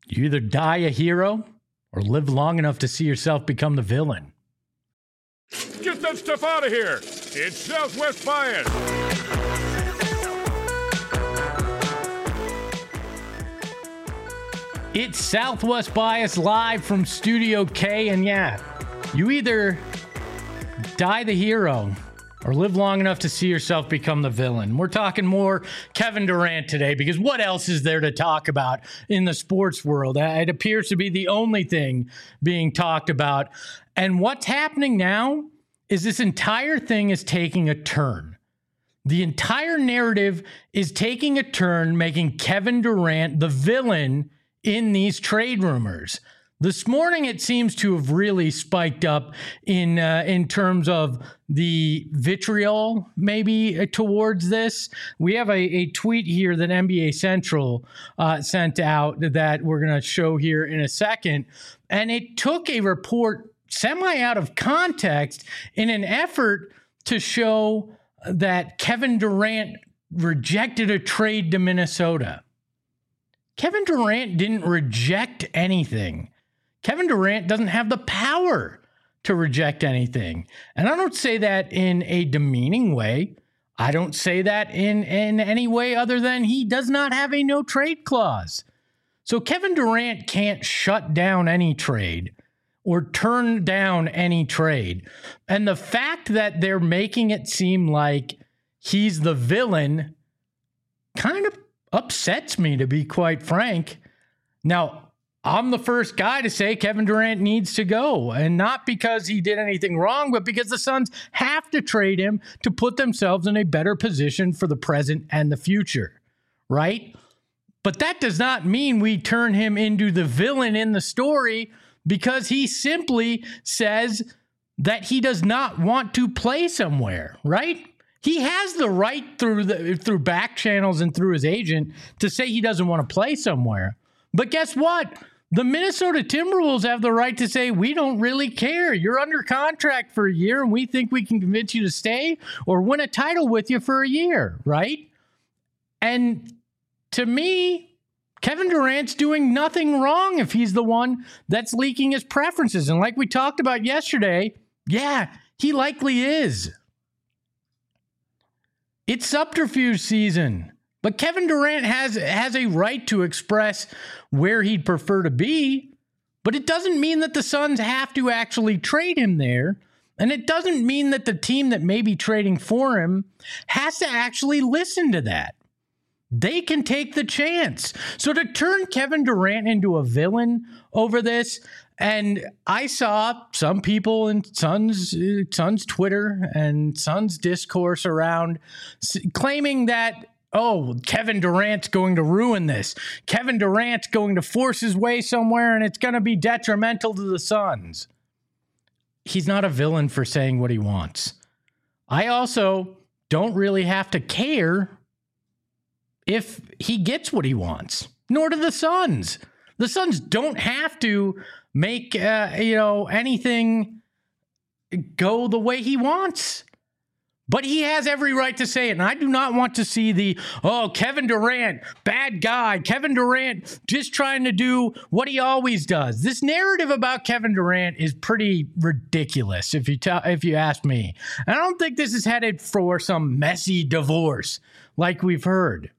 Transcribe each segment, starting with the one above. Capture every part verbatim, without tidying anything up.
You either die a hero or live long enough to see yourself become the villain. Get that stuff out of here. It's Southwest Bias. It's Southwest Bias live from Studio K, and yeah, you either die the hero or live long enough to see yourself become the villain. We're talking more Kevin Durant today because what else is there to talk about in the sports world? It appears to be the only thing being talked about. And what's happening now is this entire thing is taking a turn. The entire narrative is taking a turn, making Kevin Durant the villain in these trade rumors. This morning, it seems to have really spiked up in uh, in terms of the vitriol, maybe uh, towards this. We have a, a tweet here that N B A Central uh, sent out that we're going to show here in a second. And it took a report semi out of context in an effort to show that Kevin Durant rejected a trade to Minnesota. Kevin Durant didn't reject anything. Kevin Durant doesn't have the power to reject anything. And I don't say that in a demeaning way. I don't say that in, in any way other than he does not have a no trade clause. So Kevin Durant can't shut down any trade or turn down any trade. And the fact that they're making it seem like he's the villain kind of upsets me, to be quite frank. Now, I'm the first guy to say Kevin Durant needs to go, and not because he did anything wrong, but because the Suns have to trade him to put themselves in a better position for the present and the future, right? But that does not mean we turn him into the villain in the story because he simply says that he does not want to play somewhere, right? He has the right through the through back channels and through his agent to say he doesn't want to play somewhere. But guess what? The Minnesota Timberwolves have the right to say, we don't really care. You're under contract for a year, and we think we can convince you to stay or win a title with you for a year, right? And to me, Kevin Durant's doing nothing wrong if he's the one that's leaking his preferences. And like we talked about yesterday, yeah, he likely is. It's subterfuge season. But Kevin Durant has has a right to express where he'd prefer to be, but it doesn't mean that the Suns have to actually trade him there, and it doesn't mean that the team that may be trading for him has to actually listen to that. They can take the chance. So to turn Kevin Durant into a villain over this, and I saw some people in Suns, Suns Twitter and Suns discourse around claiming that, oh, Kevin Durant's going to ruin this. Kevin Durant's going to force his way somewhere and it's going to be detrimental to the Suns. He's not a villain for saying what he wants. I also don't really have to care if he gets what he wants, nor do the Suns. The Suns don't have to make, uh, you know, anything go the way he wants. But he has every right to say it, and I do not want to see the, oh, Kevin Durant, bad guy, Kevin Durant just trying to do what he always does. This narrative about Kevin Durant is pretty ridiculous, if you tell, if you ask me. I don't think this is headed for some messy divorce like we've heard.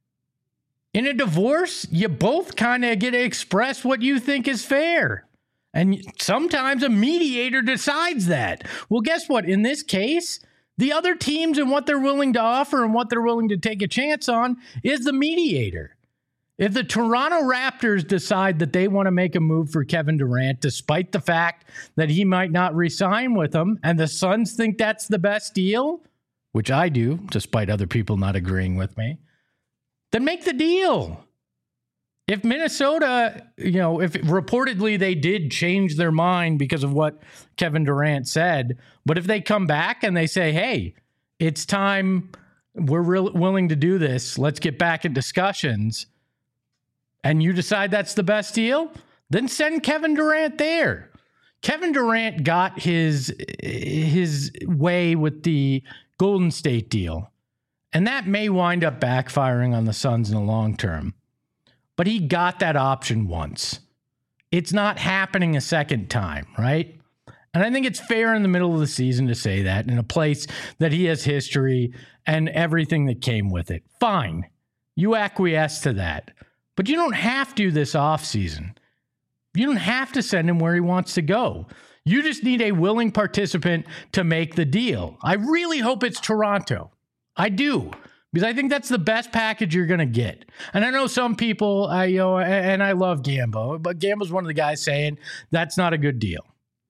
In a divorce, you both kind of get to express what you think is fair. And sometimes a mediator decides that. Well, guess what? In this case, the other teams and what they're willing to offer and what they're willing to take a chance on is the mediator. If the Toronto Raptors decide that they want to make a move for Kevin Durant, despite the fact that he might not re-sign with them, and the Suns think that's the best deal, which I do, despite other people not agreeing with me, then make the deal. If Minnesota, you know, if reportedly they did change their mind because of what Kevin Durant said, but if they come back and they say, hey, it's time, we're real willing to do this, let's get back in discussions, and you decide that's the best deal, then send Kevin Durant there. Kevin Durant got his his way with the Golden State deal, and that may wind up backfiring on the Suns in the long term. but he got that option once. It's not happening a second time, right? And I think it's fair in the middle of the season to say that in a place that he has history and everything that came with it. Fine. You acquiesce to that. But you don't have to this offseason. You don't have to send him where he wants to go. You just need a willing participant to make the deal. I really hope it's Toronto. I do. Because I think that's the best package you're going to get. And I know some people, I, you know, and I love Gambo, but Gambo's one of the guys saying that's not a good deal.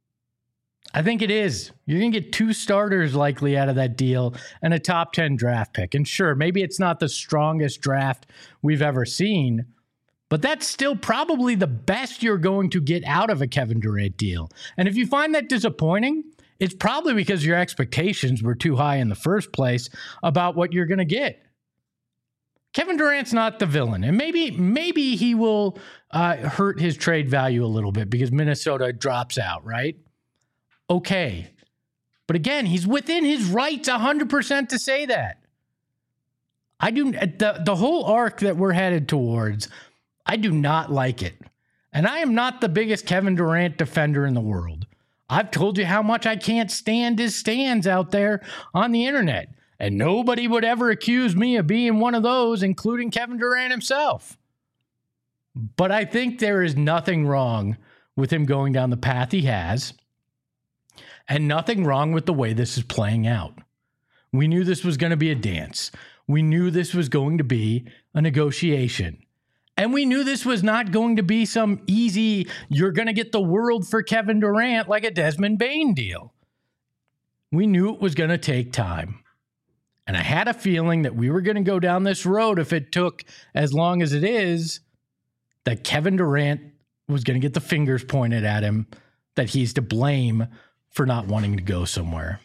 I think it is. You're going to get two starters likely out of that deal and a top ten draft pick. And sure, maybe it's not the strongest draft we've ever seen, but that's still probably the best you're going to get out of a Kevin Durant deal. And if you find that disappointing, it's probably because your expectations were too high in the first place about what you're going to get. Kevin Durant's not the villain, and maybe maybe he will uh, hurt his trade value a little bit because Minnesota drops out, right? Okay. But again, he's within his rights one hundred percent to say that. I do the, the whole arc that we're headed towards, I do not like it. And I am not the biggest Kevin Durant defender in the world. I've told you how much I can't stand his stands out there on the internet. And nobody would ever accuse me of being one of those, including Kevin Durant himself. But I think there is nothing wrong with him going down the path he has. And nothing wrong with the way this is playing out. We knew this was going to be a dance. We knew this was going to be a negotiation. And we knew this was not going to be some easy, you're going to get the world for Kevin Durant like a Desmond Bane deal. We knew it was going to take time. And I had a feeling that we were going to go down this road if it took as long as it is, that Kevin Durant was going to get the fingers pointed at him, that he's to blame for not wanting to go somewhere.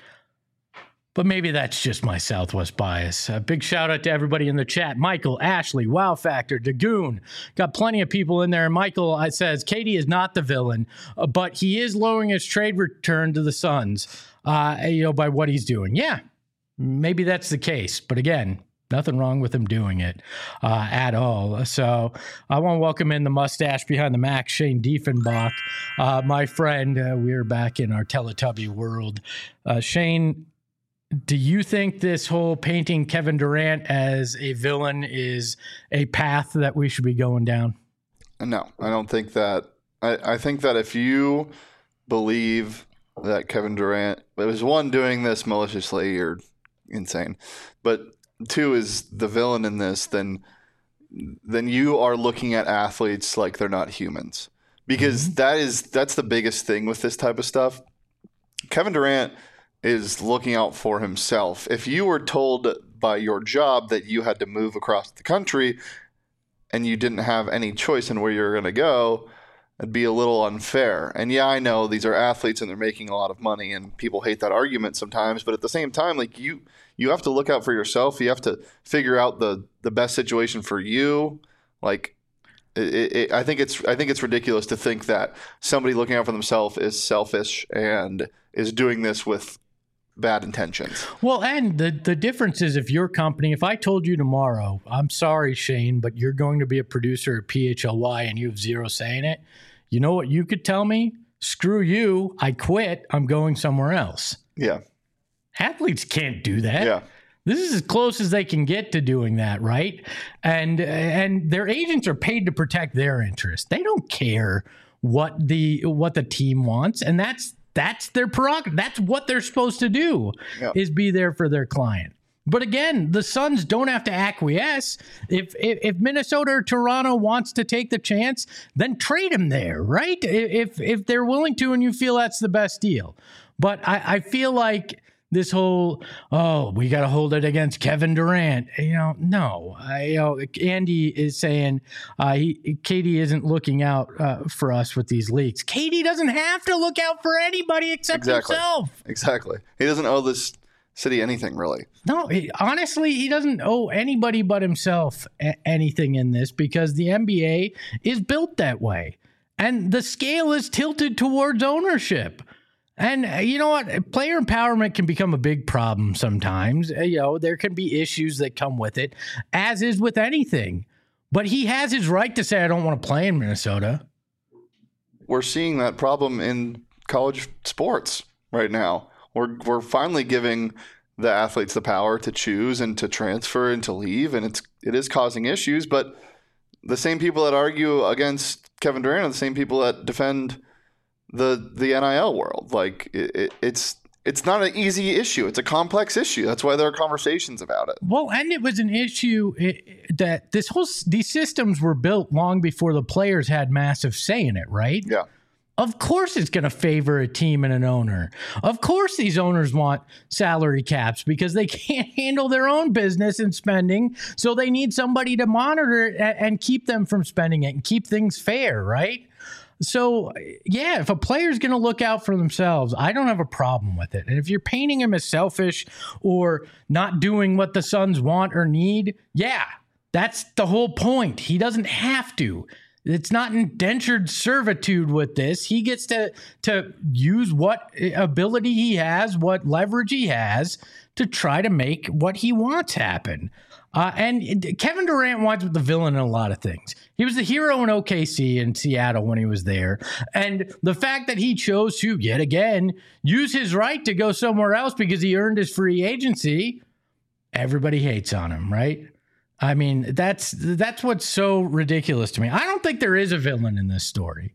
But maybe that's just my Southwest bias. A big shout out to everybody in the chat. Michael, Ashley, Wow Factor, Dagoon. Got plenty of people in there. And Michael I says, K D is not the villain, uh, but he is lowering his trade return to the Suns, uh, you know, by what he's doing. Yeah, maybe that's the case. But again, nothing wrong with him doing it uh, at all. So I want to welcome in the mustache behind the Mac, Shane Diefenbach, uh, my friend. Uh, we're back in our Teletubby world. Uh, Shane, do you think this whole painting Kevin Durant as a villain is a path that we should be going down? No, I don't think that. I, I think that if you believe that Kevin Durant, it was one, doing this maliciously, you're insane. But two, is the villain in this, then then you are looking at athletes like they're not humans. Because mm-hmm. that is that's the biggest thing with this type of stuff. Kevin Durant is looking out for himself. If you were told by your job that you had to move across the country and you didn't have any choice in where you're going to go, it'd be a little unfair. And yeah, I know these are athletes and they're making a lot of money and people hate that argument sometimes, but at the same time, like you you have to look out for yourself. You have to figure out the the best situation for you. Like it, it, I think it's I think it's ridiculous to think that somebody looking out for themselves is selfish and is doing this with bad intentions. Well, and the, the difference is if your company, if I told you tomorrow, I'm sorry, Shane, but you're going to be a producer at P H L Y and you have zero say in it, you know what you could tell me? Screw you. I quit. I'm going somewhere else. Yeah. Athletes can't do that. Yeah. This is as close as they can get to doing that, right? And and their agents are paid to protect their interests. They don't care what the what the team wants, and that's That's their prerogative. That's what they're supposed to do, yep. is be there for their client. But again, the Suns don't have to acquiesce. If, if if Minnesota or Toronto wants to take the chance, then trade him there, right? If if they're willing to and you feel that's the best deal. But I, I feel like this whole, oh, we got to hold it against Kevin Durant. You know, no. I, you know, Andy is saying uh, he, K D isn't looking out uh, for us with these leaks. K D doesn't have to look out for anybody except exactly. himself. Exactly. He doesn't owe this city anything, really. No, he, honestly, he doesn't owe anybody but himself a- anything in this because the N B A is built that way. And the scale is tilted towards ownership. And uh, you know what? Player empowerment can become a big problem sometimes. Uh, you know, there can be issues that come with it, as is with anything. But he has his right to say, I don't want to play in Minnesota. We're seeing that problem in college sports right now. We're we're finally giving the athletes the power to choose and to transfer and to leave, and it's it is causing issues. But the same people that argue against Kevin Durant are the same people that defend the the N I L world. Like it, it, it's it's not an easy issue. It's a complex issue. That's why there are conversations about it. Well, and it was an issue that this whole these systems were built long before the players had massive say in it, right? Yeah. Of course it's going to favor a team and an owner. Of course these owners want salary caps because they can't handle their own business and spending, so they need somebody to monitor it and keep them from spending it and keep things fair, right? So, yeah, if a player's going to look out for themselves, I don't have a problem with it. And if you're painting him as selfish or not doing what the Suns want or need, yeah, that's the whole point. He doesn't have to. It's not indentured servitude with this. He gets to to use what ability he has, what leverage he has to try to make what he wants happen. Uh, and Kevin Durant wants the villain in a lot of things. He was the hero in O K C and Seattle when he was there. And the fact that he chose to, yet again, use his right to go somewhere else because he earned his free agency, everybody hates on him, right? I mean, that's that's what's so ridiculous to me. I don't think there is a villain in this story.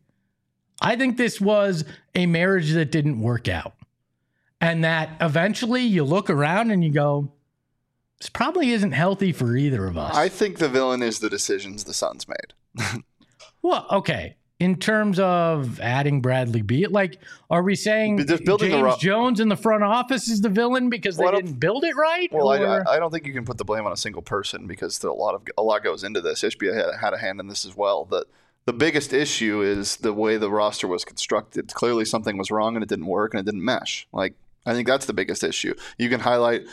I think this was a marriage that didn't work out. And that eventually you look around and you go, this probably isn't healthy for either of us. I think the villain is the decisions the Suns made. Well, okay. In terms of adding Bradley Beal, like, are we saying Just building James a ro- Jones in the front office is the villain because they Well, I don't- didn't build it right? Well, I, or- I I don't think you can put the blame on a single person because there a lot of a lot goes into this. Ishbia had, had a hand in this as well. The the biggest issue is the way the roster was constructed. Clearly, something was wrong and it didn't work and it didn't mesh. Like, I think that's the biggest issue. You can highlight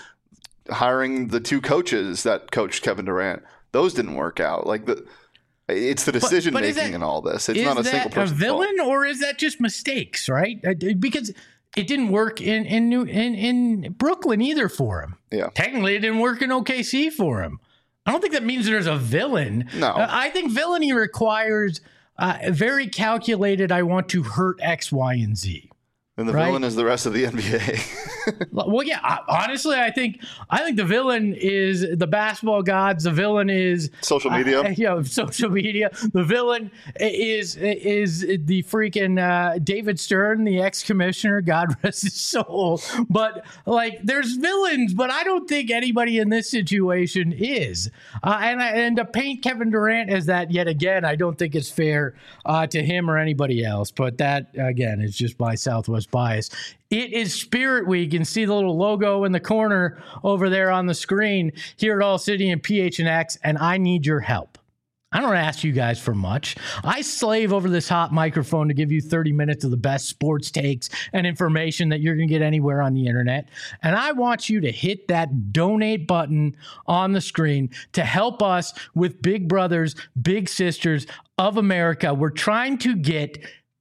hiring the two coaches that coached Kevin Durant. Those didn't work out. Like the. It's the decision but is making that- in all this. It's is not a that single person. a villain or is that just mistakes, right? Uh, Because it didn't work in in New in, in Brooklyn either for him. Yeah. Technically, it didn't work in O K C for him. I don't think that means there's a villain. No. Uh, I think villainy requires uh, very calculated. I want to hurt X, Y, and Z. And the right? villain is the rest of the N B A. Well, yeah. I- Honestly, I think I think the villain is the basketball gods. The villain is Social media. Uh, yeah, social media. The villain is is the freaking uh, David Stern, the ex-commissioner. God rest his soul. But like, there's villains, but I don't think anybody in this situation is. Uh, and I, and to paint Kevin Durant as that yet again, I don't think it's fair uh, to him or anybody else. But that again is just my Southwest bias. It is Spirit Week, and see the little logo in the corner over there on the screen here at All City and P H N X, and I need your help. I don't ask you guys for much. I slave over this hot microphone to give you thirty minutes of the best sports takes and information that you're going to get anywhere on the internet. And I want you to hit that donate button on the screen to help us with Big Brothers, Big Sisters of America. We're trying to get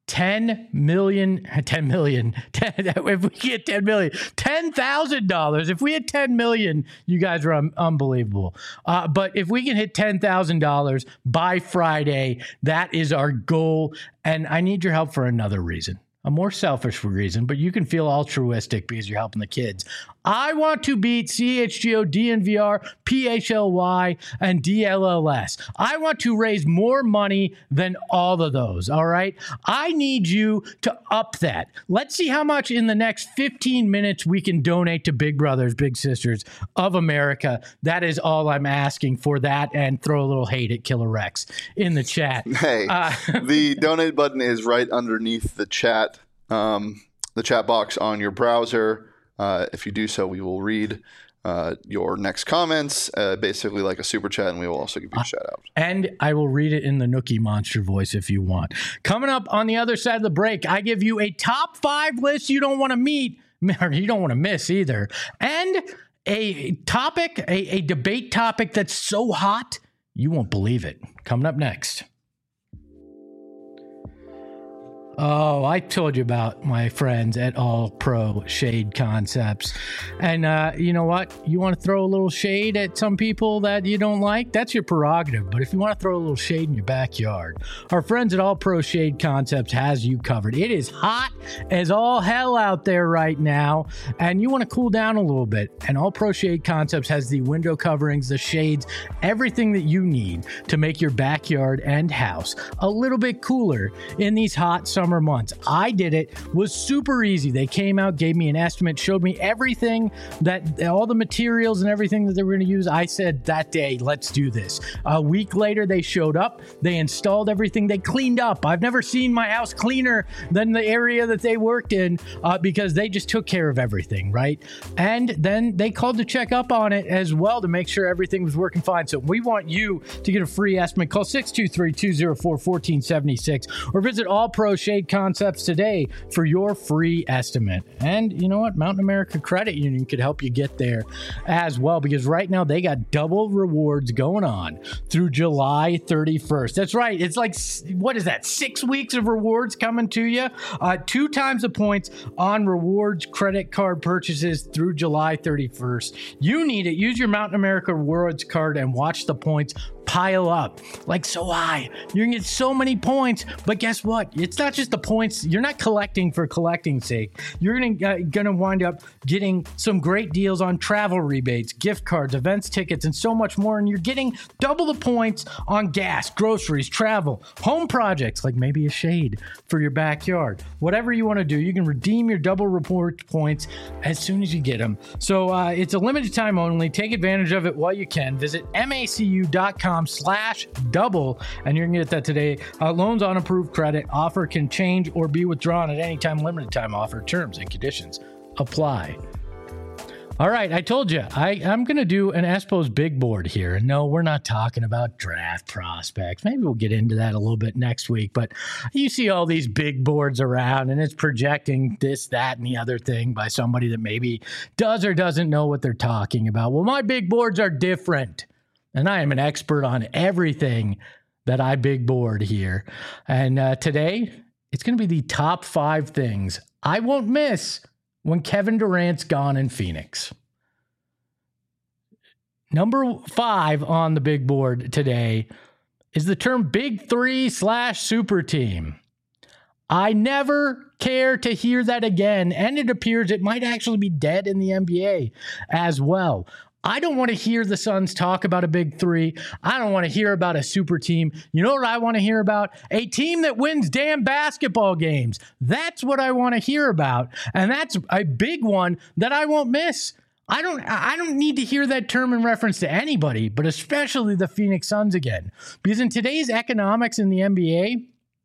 ten million, ten million, ten, if we get ten million, ten thousand dollars. If we hit ten million, you guys are un- unbelievable. Uh, but if we can hit ten thousand dollars by Friday, that is our goal. And I need your help for another reason. A more selfish reason, but you can feel altruistic because you're helping the kids. I want to beat C H G O, D N V R, P H L Y, and D L L S. I want to raise more money than all of those, all right? I need you to up that. Let's see how much in the next fifteen minutes we can donate to Big Brothers, Big Sisters of America. That is all I'm asking for that, and throw a little hate at Killer Rex in the chat. Hey, Uh, the donate button is right underneath the chat, um, the chat box on your browser. Uh, if you do so, we will read uh, your next comments, uh, basically like a super chat, and we will also give you a shout out. And I will read it in the Nookie Monster voice if you want. Coming up on the other side of the break, I give you a top five list you don't want to meet, or you don't want to miss either, and a topic, a, a debate topic that's so hot, you won't believe it. Coming up next. Oh, I told you about my friends at All Pro Shade Concepts. And uh, you know what? You want to throw a little shade at some people that you don't like? That's your prerogative. But if you want to throw a little shade in your backyard, our friends at All Pro Shade Concepts has you covered. It is hot as all hell out there right now, and you want to cool down a little bit. And All Pro Shade Concepts has the window coverings, the shades, everything that you need to make your backyard and house a little bit cooler in these hot summer months. I did it. Was super easy. They came out, gave me an estimate, showed me everything that all the materials and everything that they were going to use. I said that day, let's do this. A week later, they showed up. They installed everything. They cleaned up. I've never seen my house cleaner than the area that they worked in uh, because they just took care of everything, right? And then they called to check up on it as well to make sure everything was working fine. So we want you to get a free estimate. Call six two three, two oh four, one four seven six or visit All Pro Shade Concepts today for your free estimate. And you know what? Mountain America Credit Union could help you get there as well, because right now they got double rewards going on through July thirty-first. That's right. It's like, what is that? Six weeks of rewards coming to you. Uh, two times the points on rewards credit card purchases through July thirty-first. You need it. Use your Mountain America Rewards card and watch the points pile up like so high. You're gonna get so many points, but guess what? It's not just the points. You're not collecting for collecting's sake. You're gonna uh, gonna wind up getting some great deals on travel rebates, gift cards, events tickets, and so much more. And you're getting double the points on gas, groceries, travel, home projects, like maybe a shade for your backyard. Whatever you want to do, you can redeem your double report points as soon as you get them. So uh, it's a limited time only. Take advantage of it while you can. Visit macu dot com slash double and you're gonna get that today. Uh, loans on approved credit. Offer can change or be withdrawn at any time. Limited time offer. Terms and conditions apply. All right, I told you I, I'm going to do an Espo's big board here. And no, we're not talking about draft prospects. Maybe we'll get into that a little bit next week. But you see all these big boards around, and it's projecting this, that, and the other thing by somebody that maybe does or doesn't know what they're talking about. Well, my big boards are different, and I am an expert on everything that I big board here. And uh, today, it's going to be the top five things I won't miss when Kevin Durant's gone in Phoenix. Number five on the big board today is the term big three slash super team. I never care to hear that again, and it appears it might actually be dead in the N B A as well. I don't want to hear the Suns talk about a big three. I don't want to hear about a super team. You know what I want to hear about? A team that wins damn basketball games. That's what I want to hear about. And that's a big one that I won't miss. I don't I don't need to hear that term in reference to anybody, but especially the Phoenix Suns again. Because in today's economics in the N B A,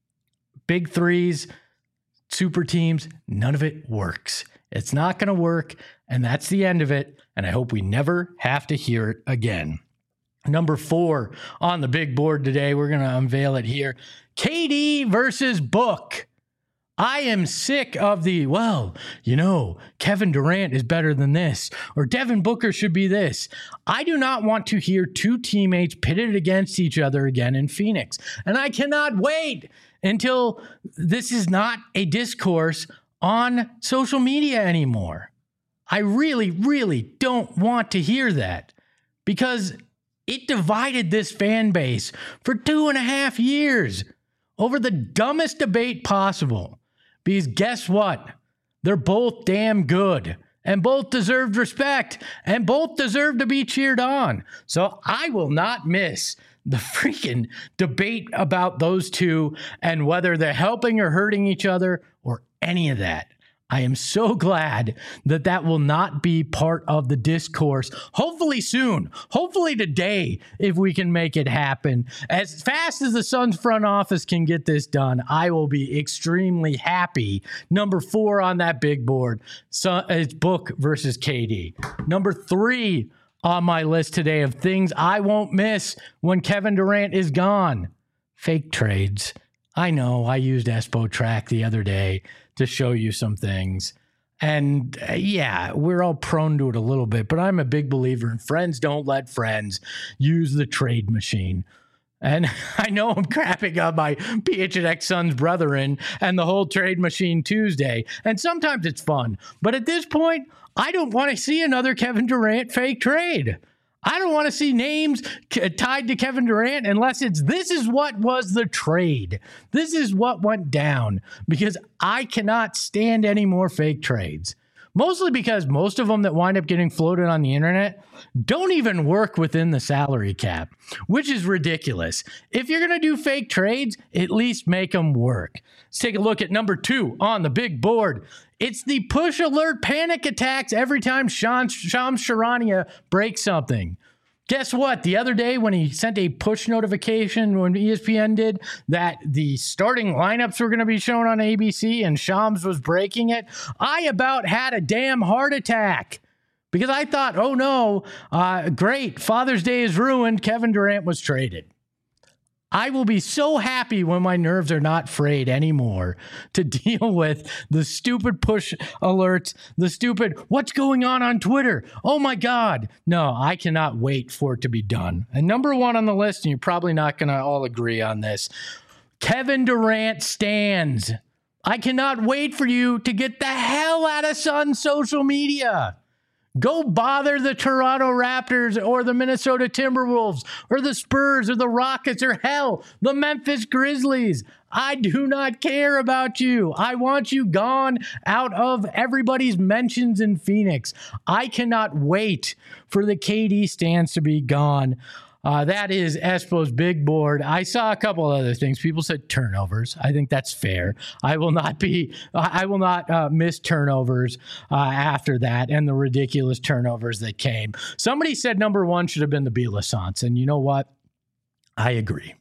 big threes, super teams, none of it works. It's not going to work, and that's the end of it, and I hope we never have to hear it again. Number four on the big board today, we're going to unveil it here. K D versus Book. I am sick of the, well, you know, Kevin Durant is better than this, or Devin Booker should be this. I do not want to hear two teammates pitted against each other again in Phoenix, and I cannot wait until this is not a discourse on social media anymore. I really, really don't want to hear that, because it divided this fan base for two and a half years over the dumbest debate possible. Because guess what? They're both damn good and both deserved respect and both deserve to be cheered on. So I will not miss the freaking debate about those two and whether they're helping or hurting each other or any of that. I am so glad that that will not be part of the discourse. Hopefully soon, hopefully today, if we can make it happen. As fast as the Suns front office can get this done, I will be extremely happy. Number four on that big board, so it's Book versus K D. Number three on my list today of things I won't miss when Kevin Durant is gone. Fake trades. I know I used Espo Track the other day to show you some things. And uh, yeah, we're all prone to it a little bit, but I'm a big believer in friends don't let friends use the trade machine. And I know I'm crapping on my P H N X Sons brethren and the whole Trade Machine Tuesday. And sometimes it's fun. But at this point, I don't want to see another Kevin Durant fake trade. I don't want to see names tied to Kevin Durant unless it's this is what was the trade. This is what went down, because I cannot stand any more fake trades. Mostly because most of them that wind up getting floated on the internet don't even work within the salary cap, which is ridiculous. If you're going to do fake trades, at least make them work. Let's take a look at number two on the big board. It's the push alert panic attacks every time Sean, Shams Charania breaks something. Guess what? The other day when he sent a push notification when E S P N did that the starting lineups were going to be shown on A B C and Shams was breaking it, I about had a damn heart attack because I thought, oh no, uh, great, Father's Day is ruined. Kevin Durant was traded. I will be so happy when my nerves are not frayed anymore to deal with the stupid push alerts, the stupid, what's going on on Twitter? Oh my God. No, I cannot wait for it to be done. And number one on the list, and you're probably not going to all agree on this, Kevin Durant stands. I cannot wait for you to get the hell out of Sun social media. Go bother the Toronto Raptors or the Minnesota Timberwolves or the Spurs or the Rockets or hell, the Memphis Grizzlies. I do not care about you. I want you gone out of everybody's mentions in Phoenix. I cannot wait for the K D stands to be gone. Uh, that is Espo's big board. I saw a couple other things. People said turnovers. I think that's fair. I will not be, I will not uh, miss turnovers uh, after that and the ridiculous turnovers that came. Somebody said number one should have been the Bielefsance. And you know what? I agree.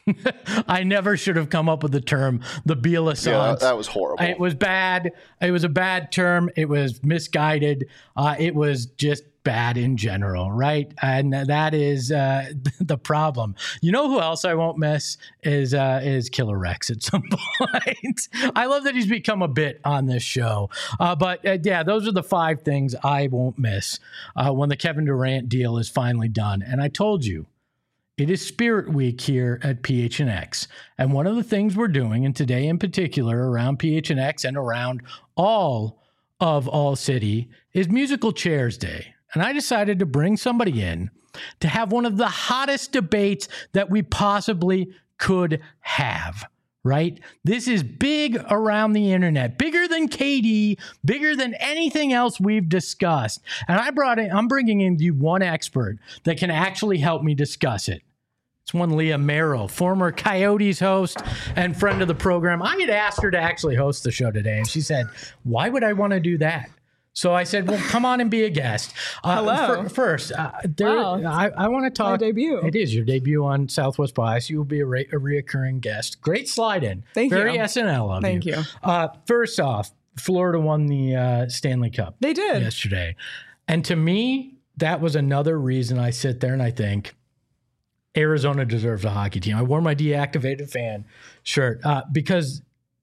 I never should have come up with the term the Bielefsance. Yeah, that, that was horrible. It was bad. It was a bad term. It was misguided. Uh, it was just bad in general, right? And that is uh, the problem. You know who else I won't miss is uh, is Killer Rex at some point. I love that he's become a bit on this show. Uh, but uh, yeah, those are the five things I won't miss uh, when the Kevin Durant deal is finally done. And I told you, it is Spirit Week here at P H N X. And one of the things we're doing, and today in particular around P H N X and around all of All City, is Musical Chairs Day. And I decided to bring somebody in to have one of the hottest debates that we possibly could have, right? This is big around the internet, bigger than K D, bigger than anything else we've discussed. And I brought in, I'm bringing in you one expert that can actually help me discuss it. It's one Leah Merrill, former Coyotes host and friend of the program. I had asked her to actually host the show today, and she said, why would I want to do that? So I said, well, come on and be a guest. Uh, Hello. For, first, uh, there, Wow. I, I want to talk. My debut. It is your debut on Southwest Bias. You will be a, re- a reoccurring guest. Great slide in. Thank Very you. S N L of Thank you. you. Uh, first off, Florida won the uh, Stanley Cup. They did. Yesterday. And to me, that was another reason I sit there and I think Arizona deserves a hockey team. I wore my deactivated fan shirt uh, because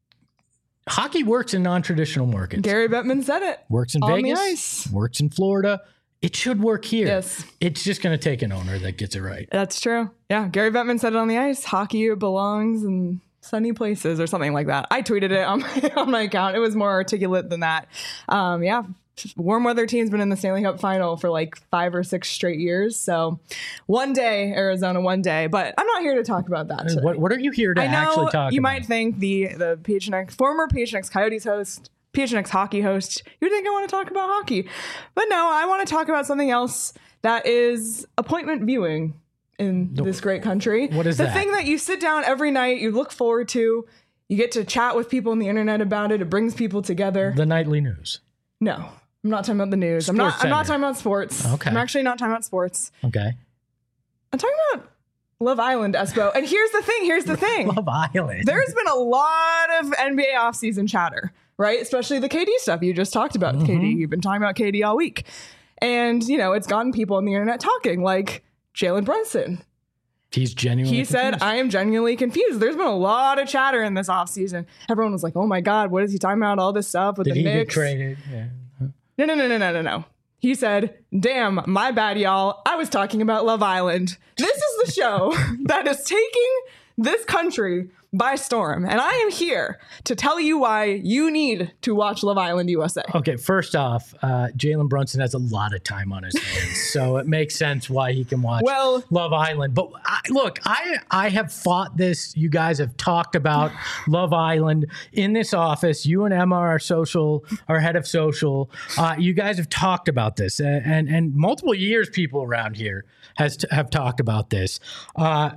hockey works in non-traditional markets. Gary Bettman said it. Works in On the Vegas, ice. works in Florida. It should work here. Yes. It's just going to take an owner that gets it right. That's true. Yeah, Gary Bettman said it on the ice. Hockey belongs in sunny places or something like that. I tweeted it on my, on my account. It was more articulate than that. Um, yeah, warm weather team's been in the Stanley Cup final for like five or six straight years. So one day, Arizona, one day. But I'm not here to talk about that today. What, what are you here to I know actually talk you about? might think the the P H N X former P H N X Coyotes host, P H N X hockey host, you think I want to talk about hockey. But no, I want to talk about something else that is appointment viewing in this great country. What is the that? thing that you sit down every night, you look forward to, you get to chat with people on the internet about it, it brings people together. The nightly news. No. I'm not talking about the news. I'm not Sports I'm not Center. talking about sports. Okay. I'm actually not talking about sports. Okay. I'm talking about Love Island, Espo. And here's the thing, here's the thing. Love Island. There's been a lot of N B A offseason chatter, right? Especially the K D stuff you just talked about with Mm-hmm. K D. You've been talking about K D all week. And, you know, it's gotten people on the internet talking, like Jalen Brunson. He's genuinely He said, confused. I am genuinely confused. There's been a lot of chatter in this offseason. Everyone was like, oh my God, what is he talking about? All this stuff with Did the he get Knicks. traded? Yeah. No, no, no, no, no, no, no. He said, damn, my bad, y'all. I was talking about Love Island. This is the show that is taking this country by storm. And I am here to tell you why you need to watch Love Island U S A. Okay, first off, uh, Jalen Brunson has a lot of time on his hands, so it makes sense why he can watch well, Love Island. But I, look, I I have fought this. You guys have talked about Love Island in this office. You and Emma are social, our head of social. Uh, you guys have talked about this, and and, and multiple years people around here has t- have talked about this. Uh,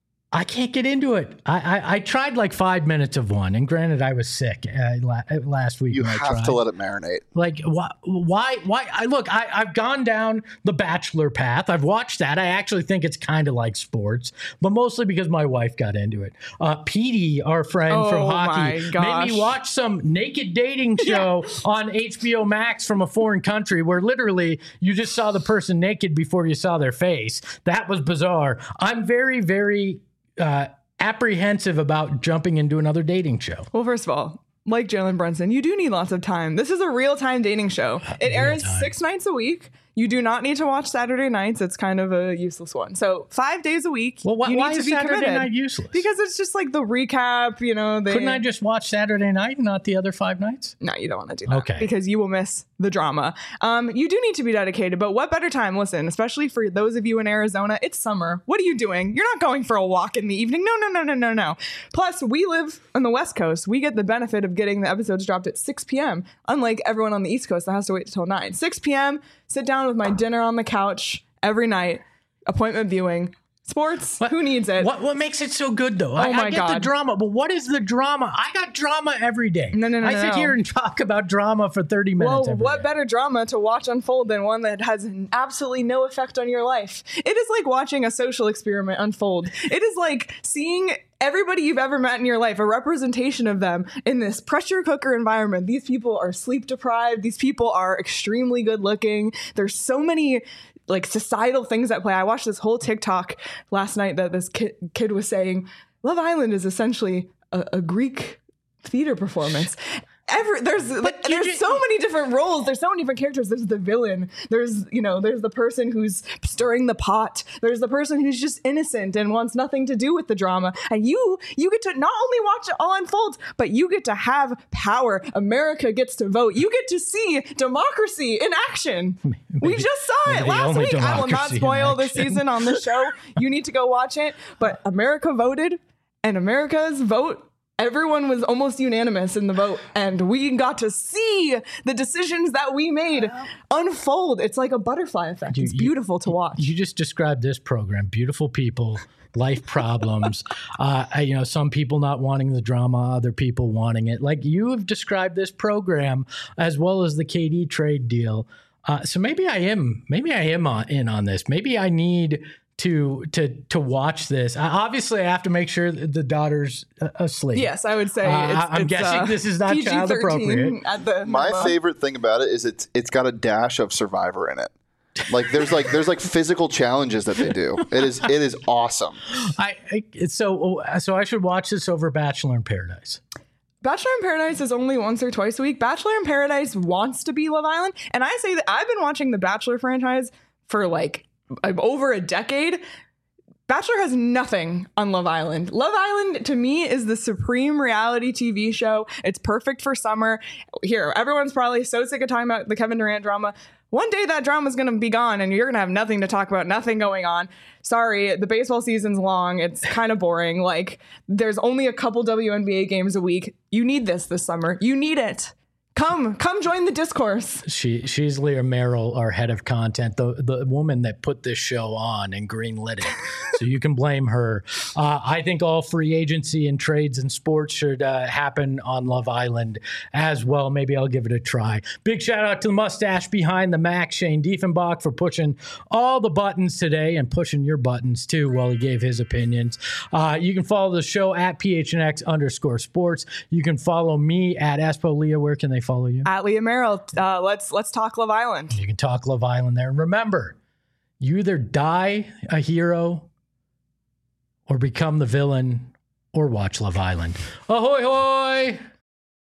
I can't get into it. I, I I tried like five minutes of one, and granted, I was sick uh, la- last week. You when I have tried. to let it marinate. Like why? Why? Why? I look. I, I've gone down the Bachelor path. I've watched that. I actually think it's kind of like sports, but mostly because my wife got into it. Uh, Petey, our friend Oh, from my hockey, gosh. made me watch some naked dating show on H B O Max from a foreign country, where literally you just saw the person naked before you saw their face. That was bizarre. I'm very, very. Uh, apprehensive about jumping into another dating show. Well, first of all, like Jalen Brunson, you do need lots of time. This is a real-time dating show. It airs time. six nights a week. You do not need to watch Saturday nights. It's kind of a useless one. So five days a week. Well, why, you why need to is be Saturday committed. night useless? Because it's just like the recap, you know. They, Couldn't I just watch Saturday night and not the other five nights? No, you don't want to do that. Okay. Because you will miss the drama. Um, you do need to be dedicated, but what better time? Listen, especially for those of you in Arizona, it's summer. What are you doing? You're not going for a walk in the evening. No, no, no, no, no, no. Plus, we live on the West Coast. We get the benefit of getting the episodes dropped at six p.m., unlike everyone on the East Coast that has to wait until nine. six p.m., sit down with my dinner on the couch every night, appointment viewing. Sports, What- who needs it? What what makes it so good though? I, Oh my I get the God. drama, but what is the drama? I got drama every day. No, no, no, I no, sit no. here and talk about drama for thirty minutes. Well, every what day. better drama to watch unfold than one that has absolutely no effect on your life? It is like watching a social experiment unfold. It is like seeing everybody you've ever met in your life, a representation of them in this pressure cooker environment. These people are sleep deprived. These people are extremely good looking. There's so many like societal things at play. I watched this whole TikTok last night that this kid, kid was saying, Love Island is essentially a, a Greek theater performance. Every, there's like, you there's ju- so many different roles. There's so many different characters. There's the villain. There's, you know, there's the person who's stirring the pot. There's the person who's just innocent and wants nothing to do with the drama. And you, you get to not only watch it all unfold, but you get to have power. America gets to vote. You get to see democracy in action. we just saw maybe it the last only week. I will not democracy in spoil this action. season on this show. You need to go watch it. But America voted, and America's vote, everyone was almost unanimous in the vote, and we got to see the decisions that we made unfold. It's like a butterfly effect. You- It's you- beautiful to watch. You just described this program: beautiful people, life problems. uh, you know, some people not wanting the drama, other people wanting it. Like you have described this program as well as the K D trade deal. Uh, so maybe I am, maybe I am on, in on this. Maybe I need to to to watch this. I, obviously, I have to make sure that the daughter's uh, asleep. Yes, I would say Uh, it's, I'm it's, guessing uh, this is not P G child thirteen appropriate. At the My minimum. favorite thing about it is it's it's got a dash of Survivor in it. Like there's like there's like physical challenges that they do. It is it is awesome. I, I it's so so I should watch this over Bachelor in Paradise. Bachelor in Paradise is only once or twice a week. Bachelor in Paradise wants to be Love Island. And I say that I've been watching the Bachelor franchise for like over a decade. Bachelor has nothing on Love Island. Love Island, to me, is the supreme reality T V show. It's perfect for summer. Here, everyone's probably so sick of talking about the Kevin Durant drama. One day that drama's going to be gone and you're going to have nothing to talk about, nothing going on. Sorry, the baseball season's long. It's kind of boring. Like, there's only a couple W N B A games a week. You need this this summer. You need it. Come, come join the discourse. She she's Leah Merrill, our head of content, the the woman that put this show on and greenlit it. So you can blame her. Uh, I think all free agency and trades and sports should uh, happen on Love Island as well. Maybe I'll give it a try. Big shout out to the mustache behind the Mac, Shane Diefenbach, for pushing all the buttons today and pushing your buttons too while he gave his opinions. Uh, you can follow the show at P H N X underscore sports. You can follow me at Espo Leah. Where can they follow you? At Leah Merrill, uh, let's let's talk Love Island. You can talk Love Island there. And remember, you either die a hero or become the villain or watch Love Island. Ahoy, hoy!